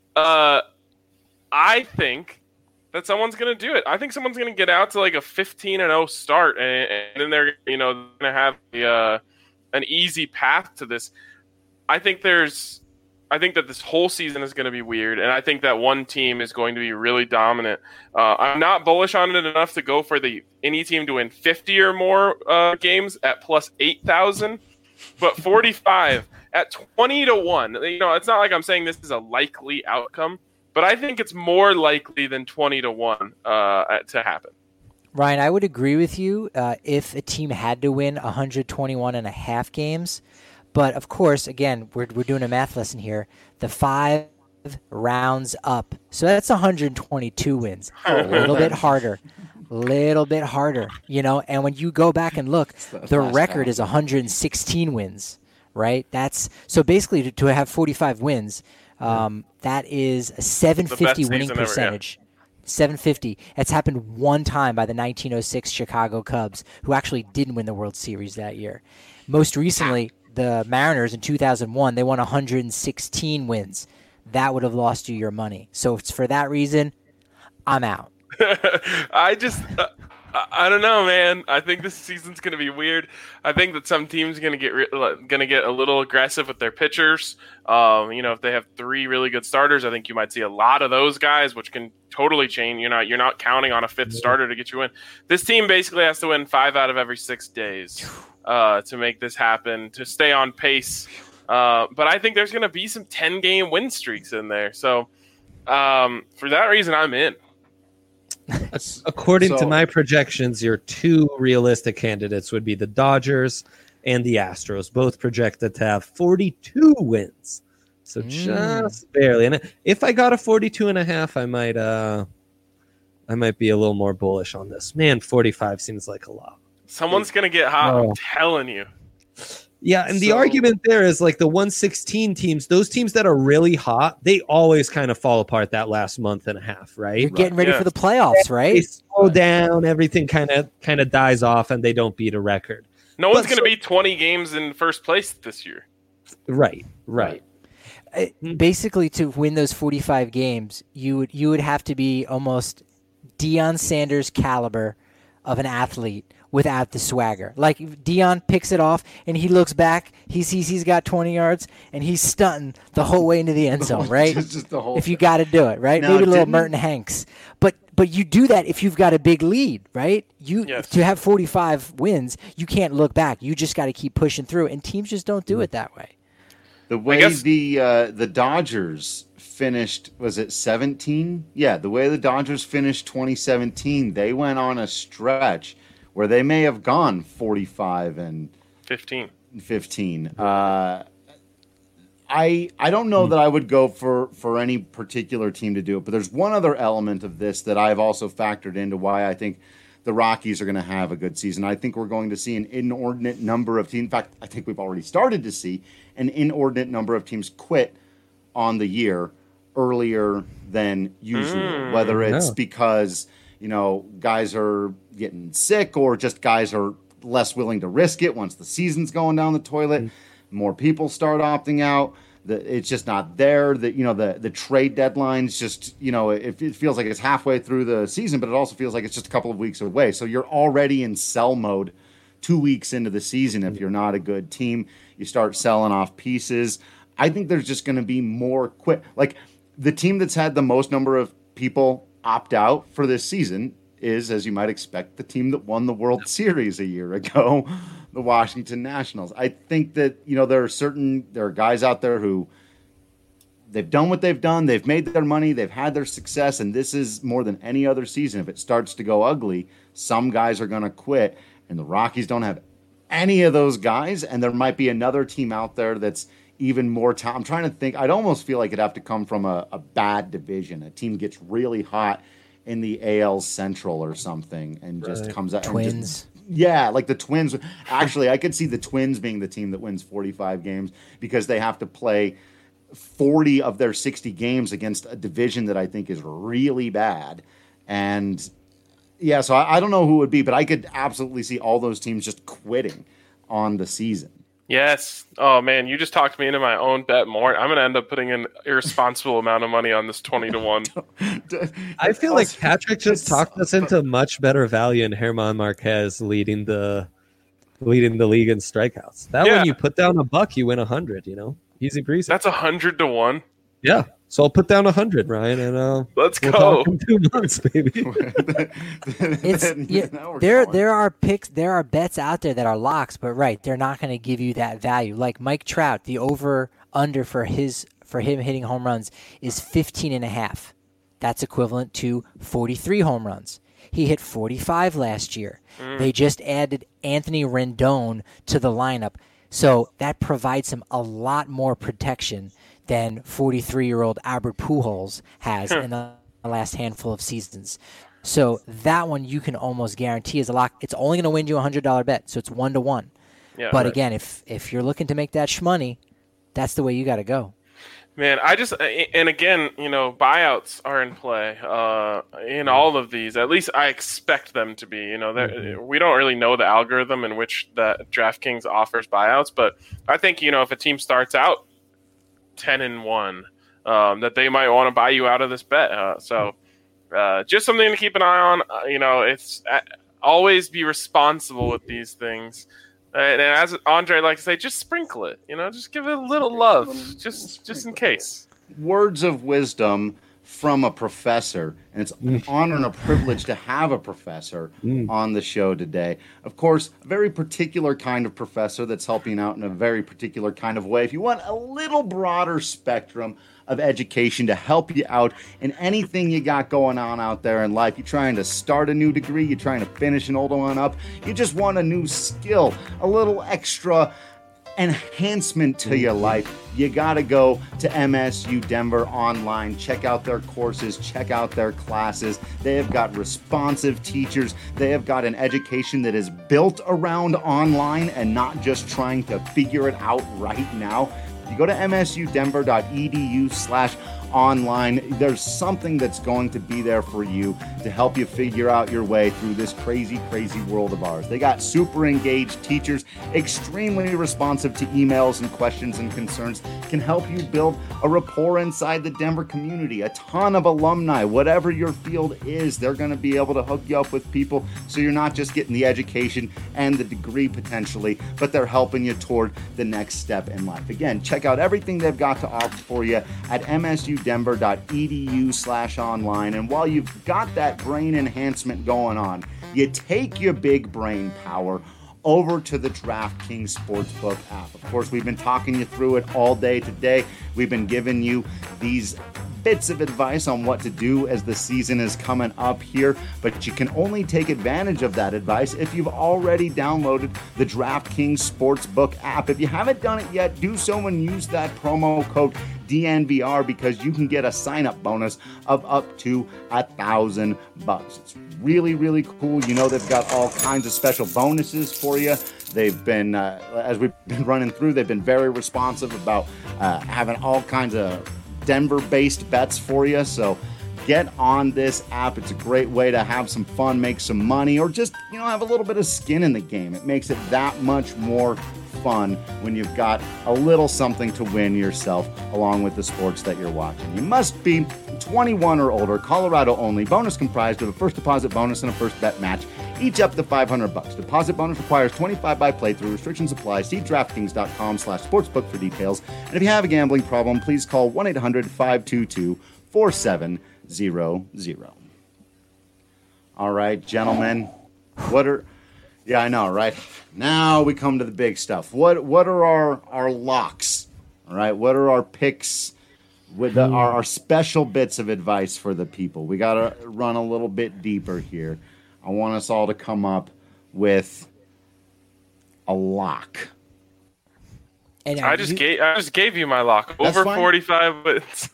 I think that someone's going to do it. I think someone's going to get out to like a 15-0 start, and then they're going to have an easy path to this. I think that this whole season is going to be weird, and I think that one team is going to be really dominant. I'm not bullish on it enough to go for any team to win 50 or more games at plus 8,000, but 45 at 20-1. It's not like I'm saying this is a likely outcome, but I think it's more likely than 20-1 to happen. Ryan, I would agree with you if a team had to win 121.5 games. But, of course, again, we're doing a math lesson here. The 5 rounds up. So that's 122 wins. A little bit harder. And when you go back and look, the record is 116 wins, right? So basically to have 45 wins, that is a 750 winning percentage. 750. That's happened one time by the 1906 Chicago Cubs, who actually didn't win the World Series that year. Most recently, the Mariners in 2001, they won 116 wins. That would have lost you your money. So it's for that reason, I'm out. I don't know, man. I think this season's going to be weird. I think that some teams are going to get a little aggressive with their pitchers. If they have 3 really good starters, I think you might see a lot of those guys, which can totally change. You're not counting on a 5th starter to get you in. This team basically has to win 5 out of every 6 days to make this happen, to stay on pace. But I think there's going to be some 10-game win streaks in there. So for that reason, I'm in. According to my projections, your 2 realistic candidates would be the Dodgers and the Astros, both projected to have 42 wins. So just barely. And if I got a 42.5, I might be a little more bullish on this. Man, 45 seems like a lot. Someone's going to get hot, I'm telling you. Yeah, and the argument there is like the 116 teams, those teams that are really hot, they always kind of fall apart that last month and a half, right? You're getting ready for the playoffs, right? They slow down, everything kind of dies off, and they don't beat a record. No one's going to be 20 games in first place this year. Right. Basically, to win those 45 games, you would have to be almost Deion Sanders caliber of an athlete without the swagger. Like Deion picks it off and he looks back, he sees he's got 20 yards and he's stunting the whole way into the end zone, right? Just the whole if you got to do it, right? Now, maybe a little Merton Hanks. But you do that if you've got a big lead, right? To have 45 wins, you can't look back. You just got to keep pushing through, and teams just don't do it that way. The way the Dodgers finished, was it 17? Yeah, the way the Dodgers finished 2017, they went on a stretch where they may have gone 45 and 15. I don't know that I would go for any particular team to do it, but there's one other element of this that I've also factored into why I think the Rockies are going to have a good season. I think we're going to see an inordinate number of teams. In fact, I think we've already started to see an inordinate number of teams quit on the year. earlier than usual, whether it's because, guys are getting sick or just guys are less willing to risk it once the season's going down the toilet. More people start opting out. It's just not there. The trade deadline's just, it feels like it's halfway through the season, but it also feels like it's just a couple of weeks away. So you're already in sell mode 2 weeks into the season. If you're not a good team, you start selling off pieces. I think there's just going to be more like the team that's had the most number of people opt out for this season is, as you might expect, the team that won the World Series a year ago, the Washington Nationals. I think that, there are guys out there who they've done what they've done. They've made their money. They've had their success. And this is more than any other season. If it starts to go ugly, some guys are going to quit. And the Rockies don't have any of those guys. And there might be another team out there that's even more I'm trying to think. I'd almost feel like it'd have to come from a bad division. A team gets really hot in the AL Central or something and just comes out. Twins. Like the Twins. Actually, I could see the Twins being the team that wins 45 games because they have to play 40 of their 60 games against a division that I think is really bad. And so I don't know who it would be, but I could absolutely see all those teams just quitting on the season. Yes. Oh man, you just talked me into my own bet more. I'm going to end up putting an irresponsible amount of money on this 20-1. I feel like Patrick just talked us into much better value in German Marquez leading the league in strikeouts. When you put down $1, you win 100. Easy breezy. That's 100-1. Yeah. So I'll put down 100, Ryan, and let's we'll go. Talk in 2 months, baby. There are picks, there are bets out there that are locks, but they're not going to give you that value. Like Mike Trout, the over under for him hitting home runs is 15.5. That's equivalent to 43 home runs. He hit 45 last year. They just added Anthony Rendon to the lineup, so that provides him a lot more protection than 43-year-old Albert Pujols has in the last handful of seasons. So that one you can almost guarantee is a lock. It's only going to win you a $100 bet, so it's 1-to-1. Yeah, but again, if you're looking to make that shmoney, that's the way you got to go. Man, and again, buyouts are in play in all of these. At least I expect them to be. We don't really know the algorithm in which that DraftKings offers buyouts, but I think if a team starts out 10-1, that they might want to buy you out of this bet. Just something to keep an eye on. It's always be responsible with these things. And as Andre likes to say, just sprinkle it. Just give it a little love, just in case. Words of wisdom from a professor, and it's an honor and a privilege to have a professor on the show today. Of course, a very particular kind of professor that's helping out in a very particular kind of way. If you want a little broader spectrum of education to help you out in anything you got going on out there in life, you're trying to start a new degree, you're trying to finish an old one up, you just want a new skill, a little extra enhancement to your life, you got to go to MSU Denver online. Check out their courses, check out their classes. They have got responsive teachers. They have got an education that is built around online and not just trying to figure it out right now. You go to msudenver.edu/online. There's something that's going to be there for you to help you figure out your way through this crazy, crazy world of ours. They got super engaged teachers, extremely responsive to emails and questions and concerns, can help you build a rapport inside the Denver community. A ton of alumni, whatever your field is, they're going to be able to hook you up with people so you're not just getting the education and the degree potentially, but they're helping you toward the next step in life. Again, check out everything they've got to offer for you at msudenver.edu/online. And while you've got that brain enhancement going on, you take your big brain power over to the DraftKings Sportsbook app. Of course, we've been talking you through it all day today. We've been giving you these bits of advice on what to do as the season is coming up here, but you can only take advantage of that advice if you've already downloaded the DraftKings Sportsbook app. If you haven't done it yet, do so and use that promo code DNVR because you can get a sign-up bonus of up to $1,000. It's really, really cool. They've got all kinds of special bonuses for you. They've been, as we've been running through, they've been very responsive about having all kinds of Denver-based bets for you. So get on this app. It's a great way to have some fun, make some money, or just, have a little bit of skin in the game. It makes it that much more fun when you've got a little something to win yourself along with the sports that you're watching. You must be 21 or older, Colorado only. Bonus comprised of a first deposit bonus and a first bet match, each up to $500. Deposit bonus requires 25 by playthrough. Restrictions apply. See DraftKings.com/sportsbook for details. And if you have a gambling problem, please call 1-800-522-4700. All right, gentlemen. Yeah, I know, right? Now we come to the big stuff. What are our locks? All right, what are our picks with our special bits of advice for the people? We got to run a little bit deeper here. I want us all to come up with a lock. And I just gave you my lock. Over 45 wins.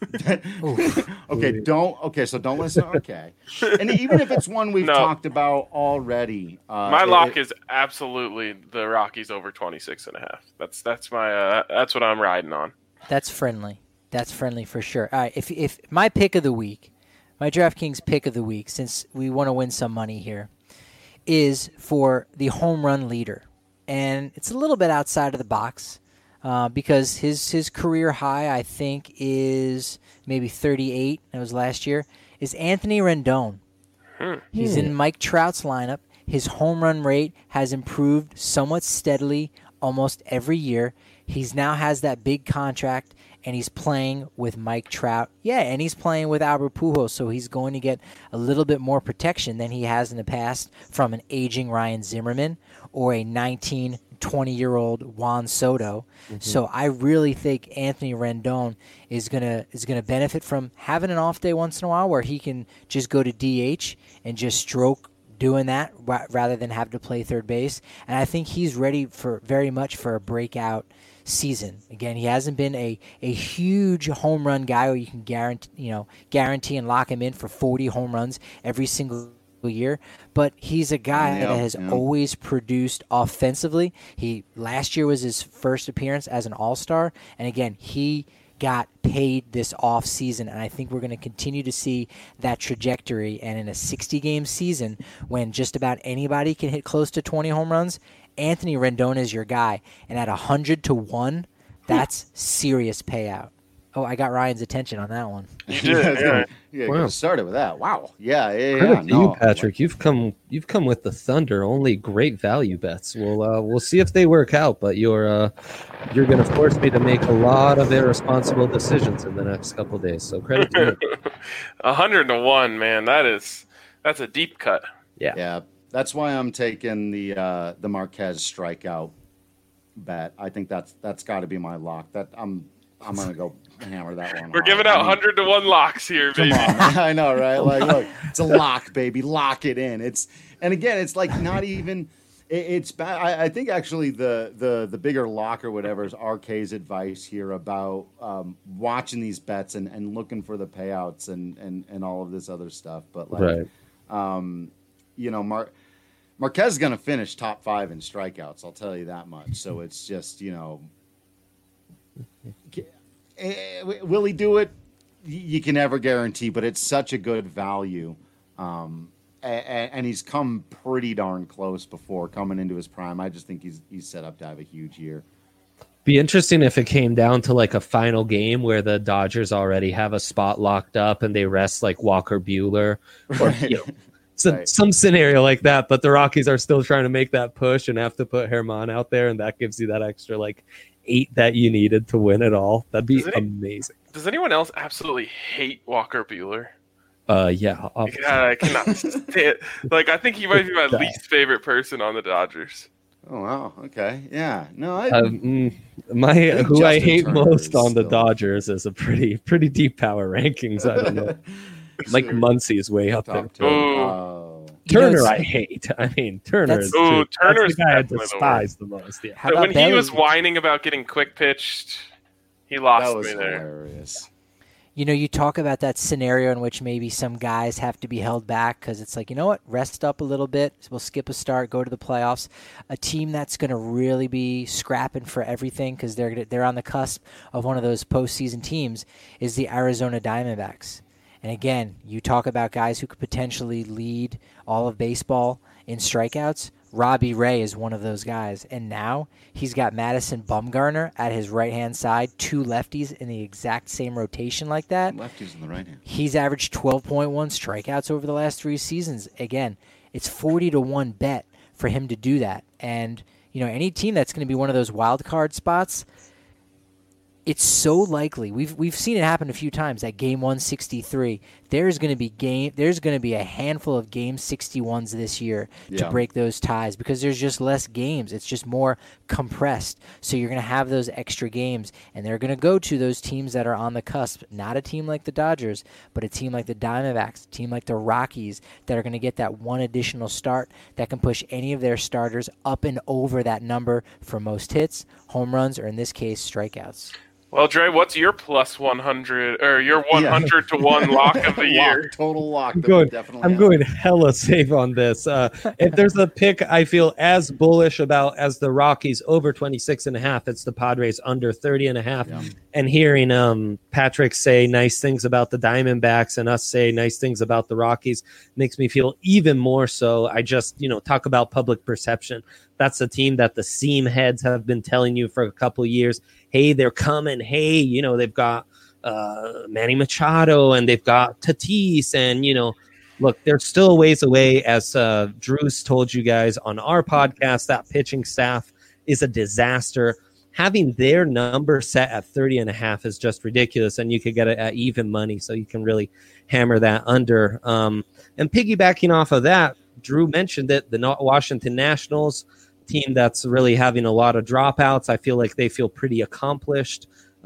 So don't listen. Okay. And even if it's one we've talked about already. My lock is absolutely the Rockies over 26.5. That's what I'm riding on. That's friendly. That's friendly for sure. All right, if my pick of the week, my DraftKings pick of the week, since we want to win some money here, is for the home run leader. And it's a little bit outside of the box. Because his career high, I think, is maybe 38. That was last year. Is Anthony Rendon. He's in Mike Trout's lineup. His home run rate has improved somewhat steadily almost every year. He's now has that big contract, and he's playing with Mike Trout. Yeah, and he's playing with Albert Pujols, so he's going to get a little bit more protection than he has in the past from an aging Ryan Zimmerman or a 20-year-old Juan Soto. So I really think Anthony Rendon is gonna benefit from having an off day once in a while where he can just go to DH and just stroke doing that rather than have to play third base. And I think he's ready very much for a breakout season. Again, he hasn't been a huge home run guy where you can guarantee and lock him in for 40 home runs every single year, but he's a guy that has always produced offensively. Last year was his first appearance as an all-star, and again, he got paid this off season, and I think we're going to continue to see that trajectory. And in a 60-game season, when just about anybody can hit close to 20 home runs, Anthony Rendon is your guy, and at 100-1, that's serious payout. Oh, I got Ryan's attention on that one. You did. Wow. Started with that. Wow. Yeah. Credit to you, Patrick. You've come with the thunder. Only great value bets. We'll see if they work out. But you're going to force me to make a lot of irresponsible decisions in the next couple of days. So credit to you. 100-1, man. That's a deep cut. Yeah. Yeah. That's why I'm taking the Marquez strikeout bet. I think that's got to be my lock. I'm going to go hammer that one. We're giving out 100-1 locks here, baby. Come on. I know, right? Like, look, it's a lock, baby. Lock it in. And again, it's like not even it's bad. I think actually the bigger lock or whatever is RK's advice here about watching these bets and looking for the payouts and all of this other stuff. But like, Marquez is going to finish top 5 in strikeouts. I'll tell you that much. So it's just, will he do it? You can never guarantee, but it's such a good value. And he's come pretty darn close before coming into his prime. I just think he's set up to have a huge year. Be interesting if it came down to like a final game where the Dodgers already have a spot locked up and they rest like Walker Buehler or some scenario like that, but the Rockies are still trying to make that push and have to put Germán out there, and that gives you that extra like 8 that you needed to win it all. That'd be amazing. Does anyone else absolutely hate Walker Buehler? Yeah. I cannot stand. Like, I think he might be my least favorite person on the Dodgers. Oh wow. Okay. Yeah. No. Who I hate most on the Dodgers is a pretty deep power rankings. I don't know. Mike Muncy is way up there. Turner, I hate. I mean, Turner's the guy I despise the most. Yeah. When he was whining about getting quick pitched, he lost me there. Hilarious. You talk about that scenario in which maybe some guys have to be held back because it's like, you know what, rest up a little bit. We'll skip a start, go to the playoffs. A team that's going to really be scrapping for everything because they're on the cusp of one of those postseason teams is the Arizona Diamondbacks. And again, you talk about guys who could potentially lead all of baseball in strikeouts. Robbie Ray is one of those guys. And now he's got Madison Bumgarner at his right-hand side, 2 lefties in the exact same rotation like that. Lefties in the right hand. He's averaged 12.1 strikeouts over the last 3 seasons. Again, it's 40-1 bet for him to do that. And, any team that's going to be one of those wild card spots, it's so likely. We've seen it happen a few times at game 163. There's going to be a handful of game 61s this year to break those ties because there's just less games. It's just more compressed. So you're going to have those extra games, and they're going to go to those teams that are on the cusp. Not a team like the Dodgers, but a team like the Diamondbacks, a team like the Rockies that are going to get that one additional start that can push any of their starters up and over that number for most hits, home runs, or in this case, strikeouts. Well, Dre, what's your plus 100 or your 100 to 1 lock of the year? Total lock. I'm going hella safe on this. If there's a pick I feel as bullish about as the Rockies over 26.5, it's the Padres under 30.5. Yeah. And hearing Patrick say nice things about the Diamondbacks and us say nice things about the Rockies makes me feel even more so. I just, talk about public perception. That's a team that the seam heads have been telling you for a couple of years. Hey, they're coming. Hey, they've got Manny Machado and they've got Tatis. And, look, they're still a ways away. As Drew's told you guys on our podcast, that pitching staff is a disaster. Having their number set at 30.5 is just ridiculous. And you could get it at even money. So you can really hammer that under. And piggybacking off of that, Drew mentioned it, the Washington Nationals, team that's really having a lot of dropouts. I feel like they feel pretty accomplished.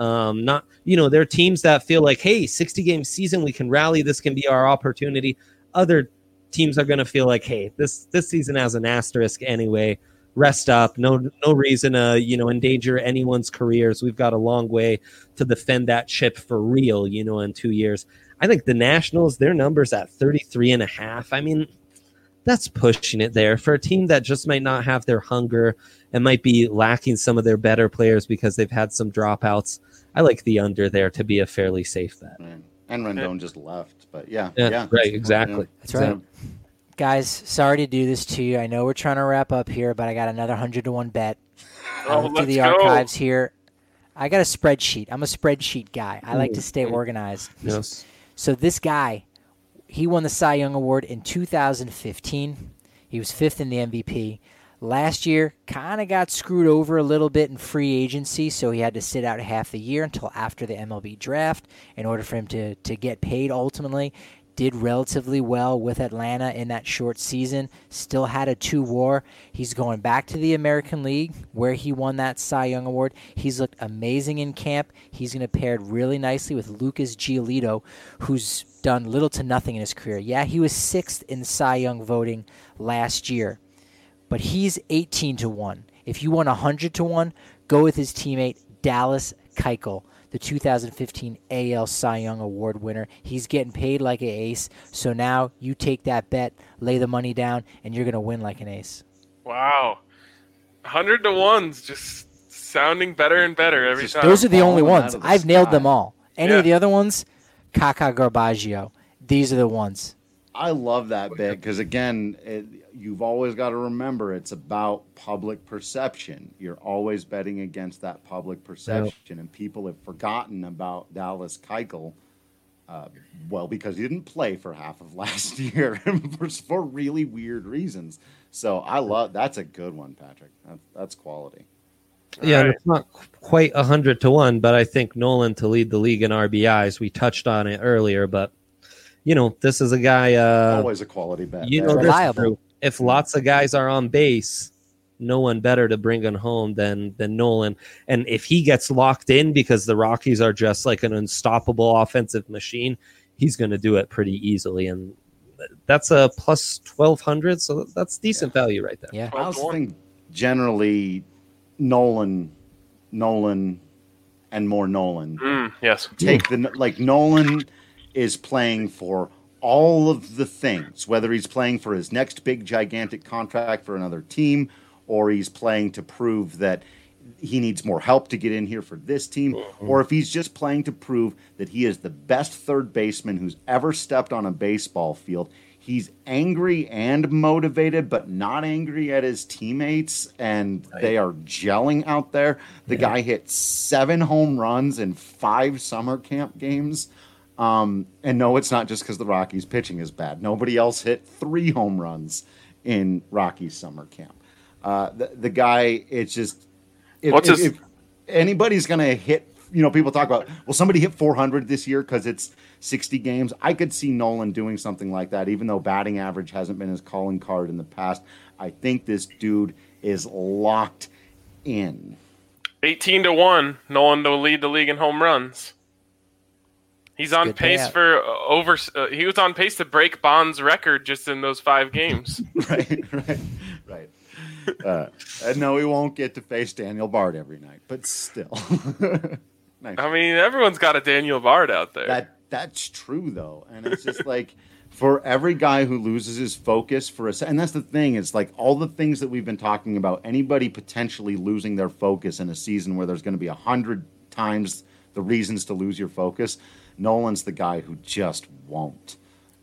They're teams that feel like, hey, 60-game season, we can rally. This can be our opportunity. Other teams are going to feel like, hey, this season has an asterisk anyway. Rest up. No reason to, endanger anyone's careers. We've got a long way to defend that chip for real, in 2 years. I think the Nationals, their numbers at 33.5. I mean, that's pushing it there for a team that just might not have their hunger and might be lacking some of their better players because they've had some dropouts. I like the under there to be a fairly safe bet. And Rendon just left, but yeah. Right, exactly. That's right. Guys, sorry to do this to you. I know we're trying to wrap up here, but I got another 100-1 bet. I'll look through the archives here. I got a spreadsheet. I'm a spreadsheet guy. I like to stay organized. Yes. So this guy, he won the Cy Young Award in 2015. He was 5th in the MVP. Last year, kind of got screwed over a little bit in free agency, so he had to sit out half the year until after the MLB draft in order for him to get paid ultimately. Did relatively well with Atlanta in that short season. Still had a 2 WAR. He's going back to the American League where he won that Cy Young Award. He's looked amazing in camp. He's going to pair really nicely with Lucas Giolito, who's done little to nothing in his career. Yeah, he was 6th in Cy Young voting last year, but he's 18-1. If you want 100-1, go with his teammate Dallas Keuchel, the 2015 AL Cy Young Award winner. He's getting paid like an ace, so now you take that bet, lay the money down, and you're going to win like an ace. Wow. 100-1's just sounding better and better every time. Those are the only ones. I've nailed them all. Any of the other ones, Kaka Garbaggio. These are the ones. I love that bit because, again, you've always got to remember it's about public perception. You're always betting against that public perception, and people have forgotten about Dallas Keuchel, because he didn't play for half of last year for really weird reasons. So that's a good one, Patrick. That's quality. Yeah, right. It's not quite 100-1, but I think Nolan to lead the league in RBIs. We touched on it earlier, but this is a guy. Always a quality bet. Reliable. If lots of guys are on base, no one better to bring him home than Nolan. And if he gets locked in because the Rockies are just like an unstoppable offensive machine, he's going to do it pretty easily. And that's a plus 1,200, so that's decent value right there. Yeah, I also think generally Nolan and more Nolan. Yes. Nolan is playing for all of the things, whether he's playing for his next big gigantic contract for another team, or he's playing to prove that he needs more help to get in here for this team, or if he's just playing to prove that he is the best third baseman who's ever stepped on a baseball field. He's angry and motivated, but not angry at his teammates, and they are gelling out there. The guy hit 7 home runs in 5 summer camp games. And no, it's not just because the Rockies' pitching is bad. Nobody else hit 3 home runs in Rockies summer camp. The guy, it's just... If anybody's going to hit, people talk about, will somebody hit 400 this year because it's 60 games? I could see Nolan doing something like that, even though batting average hasn't been his calling card in the past. I think this dude is locked in. 18-1, Nolan to lead the league in home runs. He's on pace for he was on pace to break Bond's record just in those 5 games. Right. And no, he won't get to face Daniel Bard every night, but still. Nice. I mean, everyone's got a Daniel Bard out there. That's true, though. And it's just like, for every guy who loses his focus and that's the thing, it's like all the things that we've been talking about, anybody potentially losing their focus in a season where there's going to be 100 times the reasons to lose your focus, Nolan's the guy who just won't.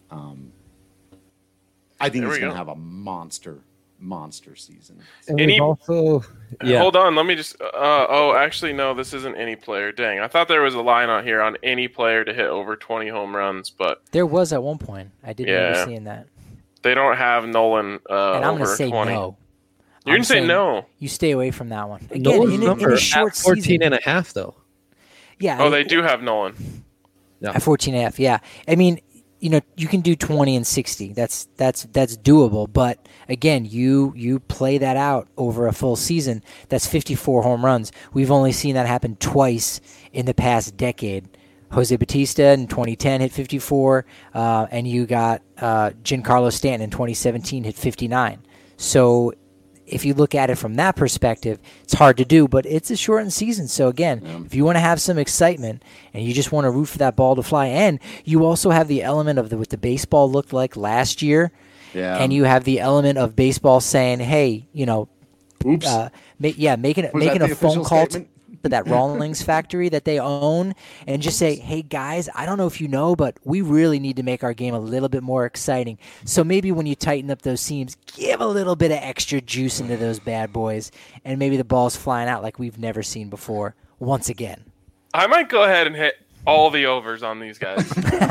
I think he's going to have a monster season. Hold on, let me just actually no, this isn't any player. Dang, I thought there was a line out here on any player to hit over 20 home runs, but there was at one point. I didn't remember seeing that. They don't have Nolan and I'm over gonna say 20. No. You're going to say no. You stay away from that one. Again, Nolan's in number a short at 14 season. and a half, though. Yeah. They do have Nolan. Yeah. At 14 and a half, yeah. I mean, you can do 20 and 60. That's doable. But again, you play that out over a full season. That's 54 home runs. We've only seen that happen twice in the past decade. Jose Bautista in 2010 hit 54, and you got Giancarlo Stanton in 2017 hit 59. So if you look at it from that perspective, it's hard to do, but it's a shortened season. So again, if you want to have some excitement and you just want to root for that ball to fly, and you also have the element of what the baseball looked like last year, and you have the element of baseball saying, hey, oops, making a phone call to that Rawlings factory that they own and just say, hey guys, I don't know if you know, but we really need to make our game a little bit more exciting. So maybe when you tighten up those seams, give a little bit of extra juice into those bad boys, and maybe the ball's flying out like we've never seen before once again. I might go ahead and hit all the overs on these guys.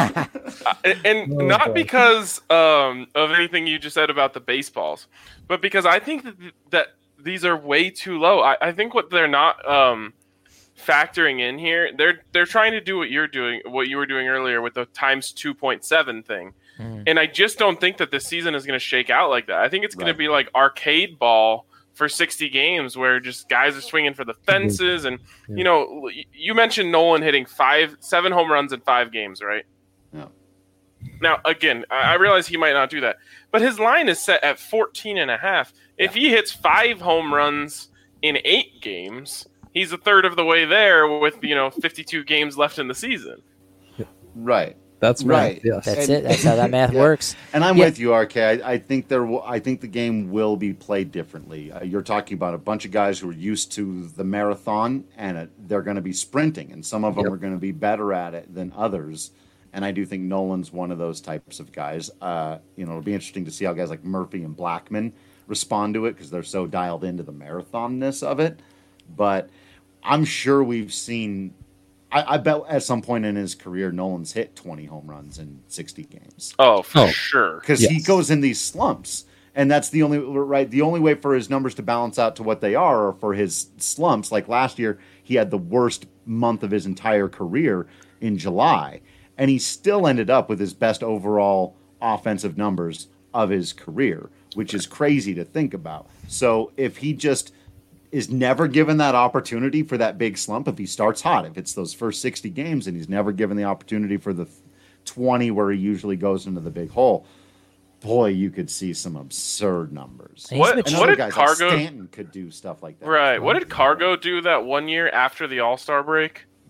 Not because of anything you just said about the baseballs, but because I think that these are way too low. I think what they're not factoring in here, they're trying to do what you were doing earlier with the times 2.7 thing. And I just don't think that this season is going to shake out like that. I think it's going to be like arcade ball for 60 games where just guys are swinging for the fences. And, you mentioned Nolan hitting 7 home runs in 5 games, right? Yeah. Now, again, I realize he might not do that, but his line is set at 14 and a half. If he hits 5 home runs in 8 games, he's a third of the way there with, 52 games left in the season. Right. That's right. Yes. That's it. That's how that math works. And I'm with you, RK. I think the game will be played differently. You're talking about a bunch of guys who are used to the marathon, and they're going to be sprinting, and some of them are going to be better at it than others. And I do think Nolan's one of those types of guys. It'll be interesting to see how guys like Murphy and Blackman respond to it because they're so dialed into the marathonness of it. But I'm sure we've seen... I bet at some point in his career, Nolan's hit 20 home runs in 60 games. Oh, for sure. Because he goes in these slumps. And that's the only way for his numbers to balance out to what they are for his slumps. Like last year, he had the worst month of his entire career in July. And he still ended up with his best overall offensive numbers of his career, which is crazy to think about. So if he just is never given that opportunity for that big slump, if he starts hot, if it's those first 60 games and he's never given the opportunity for the 20 where he usually goes into the big hole, boy, you could see some absurd numbers. What did guys Cargo... Like Stanton could do stuff like that. Right. What did Cargo do that one year after the All-Star break?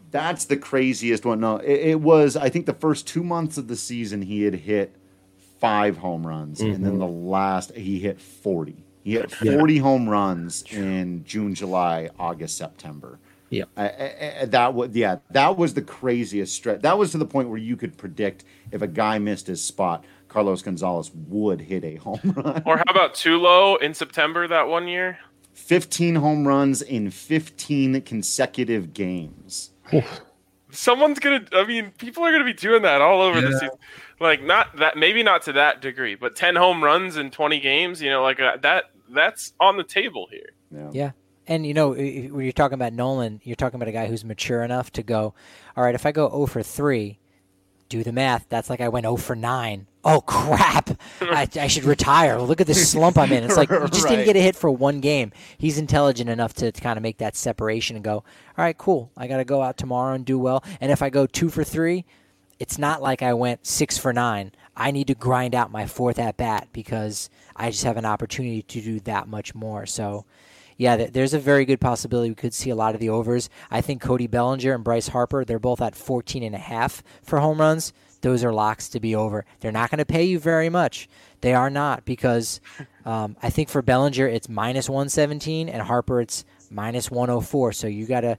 That's the craziest one. No, it was, I think the first 2 months of the season, he had hit 5 home runs. And then the last, he hit 40. He hit 40 home runs in June, July, August, September. Yeah. That was the craziest stretch. That was to the point where you could predict if a guy missed his spot, Carlos Gonzalez would hit a home run. Or how about Tulo in September that one year? 15 home runs in 15 consecutive games. Someone's gonna. I mean, people are gonna be doing that all over the season. Like, not that, maybe not to that degree, but 10 home runs in 20 games. You know, like that. That's on the table here. Yeah. And, you know, when you're talking about Nolan, you're talking about a guy who's mature enough to go, all right, if I go 0 for 3, do the math. That's like I went 0 for 9. Oh, crap. I should retire. Look at this slump I'm in. It's like you just didn't get a hit for one game. He's intelligent enough to kind of make that separation and go, all right, cool. I got to go out tomorrow and do well. And if I go 2 for 3, it's not like I went 6 for 9. I need to grind out my 4th at-bat because I just have an opportunity to do that much more. So, yeah, there's a very good possibility we could see a lot of the overs. I think Cody Bellinger and Bryce Harper, they're both at 14.5 for home runs. Those are locks to be over. They're not going to pay you very much. They are not, because I think for Bellinger it's minus 117 and Harper it's minus 104. So you gotta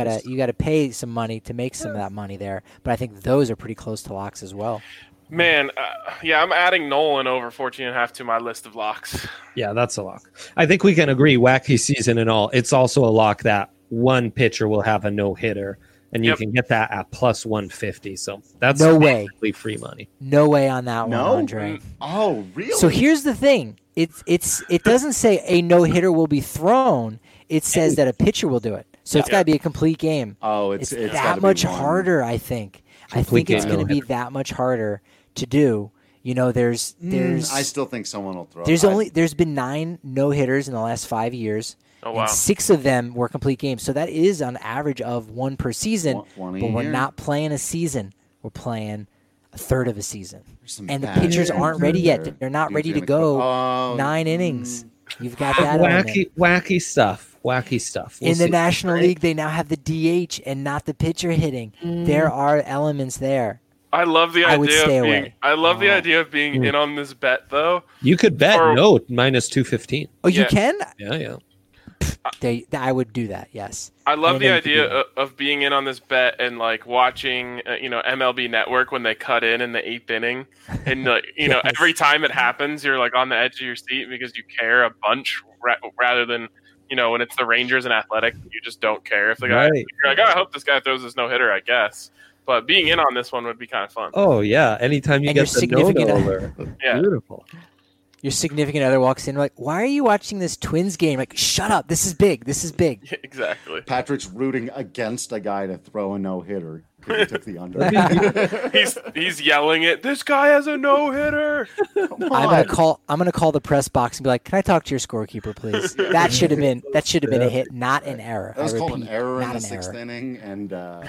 pay some money to make some of that money there. But I think those are pretty close to locks as well. Man, I'm adding Nolan over 14.5 to my list of locks. Yeah, that's a lock. I think we can agree, wacky season and all, it's also a lock that one pitcher will have a no-hitter, and you can get that at plus 150. So that's no way free money. No way on that one, Andre. Oh, really? So here's the thing. It doesn't say a no-hitter will be thrown. It says that a pitcher will do it. So it's got to be a complete game. Oh, it's that much harder, I think. I think it's going to be that much harder to do. You know, there's I still think someone will throw. There's been 9 no-hitters in the last 5 years. Oh, wow. And 6 of them were complete games. So that is on average of 1 per season. One but we're year. not playing a season. We're playing a third of a season. And the bad pitchers aren't ready yet. there. They're not He's ready to gonna go 9 innings. You've got that element. Wacky stuff. Wacky stuff. In the National League, they now have the DH and not the pitcher hitting. There are elements there. I love the I would idea stay of being. away. I love the idea of being in on this bet, though. You could bet minus 215. Oh, you can? Yeah. I would do that, yes. I love And the then- idea of being in on this bet and like watching, MLB Network when they cut in the 8th inning, and every time it happens, you're like on the edge of your seat because you care a bunch rather than when it's the Rangers and Athletic, you just don't care if the guy. Right. You're like, I hope this guy throws this no hitter, I guess. But being in on this one would be kind of fun. Oh yeah, anytime you And get your the significant no-no alert. Yeah. Beautiful. Your significant other walks in like, why are you watching this Twins game? Like, shut up. This is big. This is big. Yeah, exactly. Patrick's rooting against a guy to throw a no-hitter because he took the under. He's yelling it. This guy has a no hitter. I'm gonna call the press box and be like, "Can I talk to your scorekeeper, please?" That should have been a hit, not an error. That was I called an repeat, error in not the an 6th error. inning, and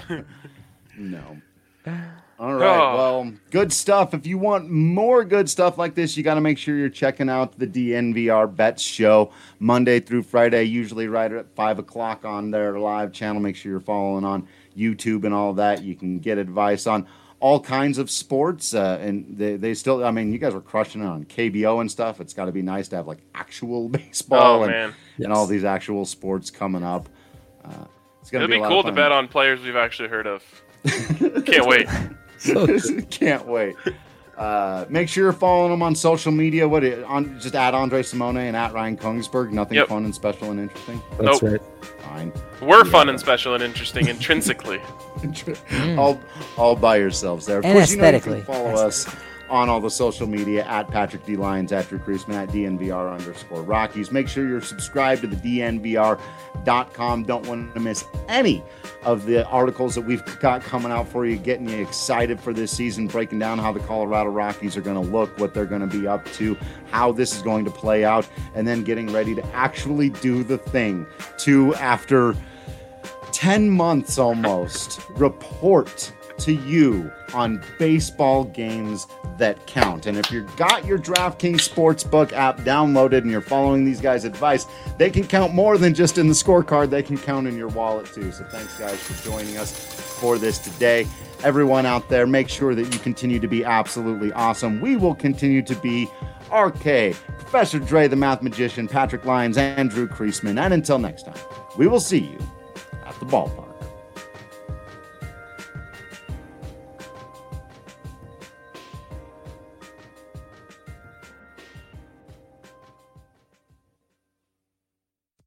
no. All right, well, good stuff. If you want more good stuff like this, you got to make sure you're checking out the DNVR Bets Show Monday through Friday, usually right at 5 o'clock on their live channel. Make sure you're following on YouTube and all that. You can get advice on all kinds of sports, and they still, I mean, you guys were crushing it on KBO and stuff. It's got to be nice to have like actual baseball and all these actual sports coming up. It's gonna It'd be a lot cool of to fun. bet on players we've actually heard of. Can't wait. Can't wait. Make sure you're following them on social media. Just at Andre Simone and at Ryan Kongsberg. Nothing fun and special and interesting. That's Nope. right. Fine. We're fun and special and interesting intrinsically. all by yourselves there. Of And course, you aesthetically. can follow us on all the social media at Patrick D. Lyons, at Drew Creasman, at DNVR_Rockies. Make sure you're subscribed to the DNVR.com. Don't want to miss any of the articles that we've got coming out for you, getting you excited for this season, breaking down how the Colorado Rockies are going to look, what they're going to be up to, how this is going to play out, and then getting ready to actually do the thing to, after 10 months almost, report to you on baseball games that count. And if you've got your DraftKings Sportsbook app downloaded and you're following these guys' advice, they can count more than just in the scorecard. They can count in your wallet too. So thanks, guys, for joining us for this today. Everyone out there, make sure that you continue to be absolutely awesome. We will continue to be RK, Professor Dre, the Math Magician, Patrick Lyons, and Drew Creasman. And until next time, we will see you at the ballpark.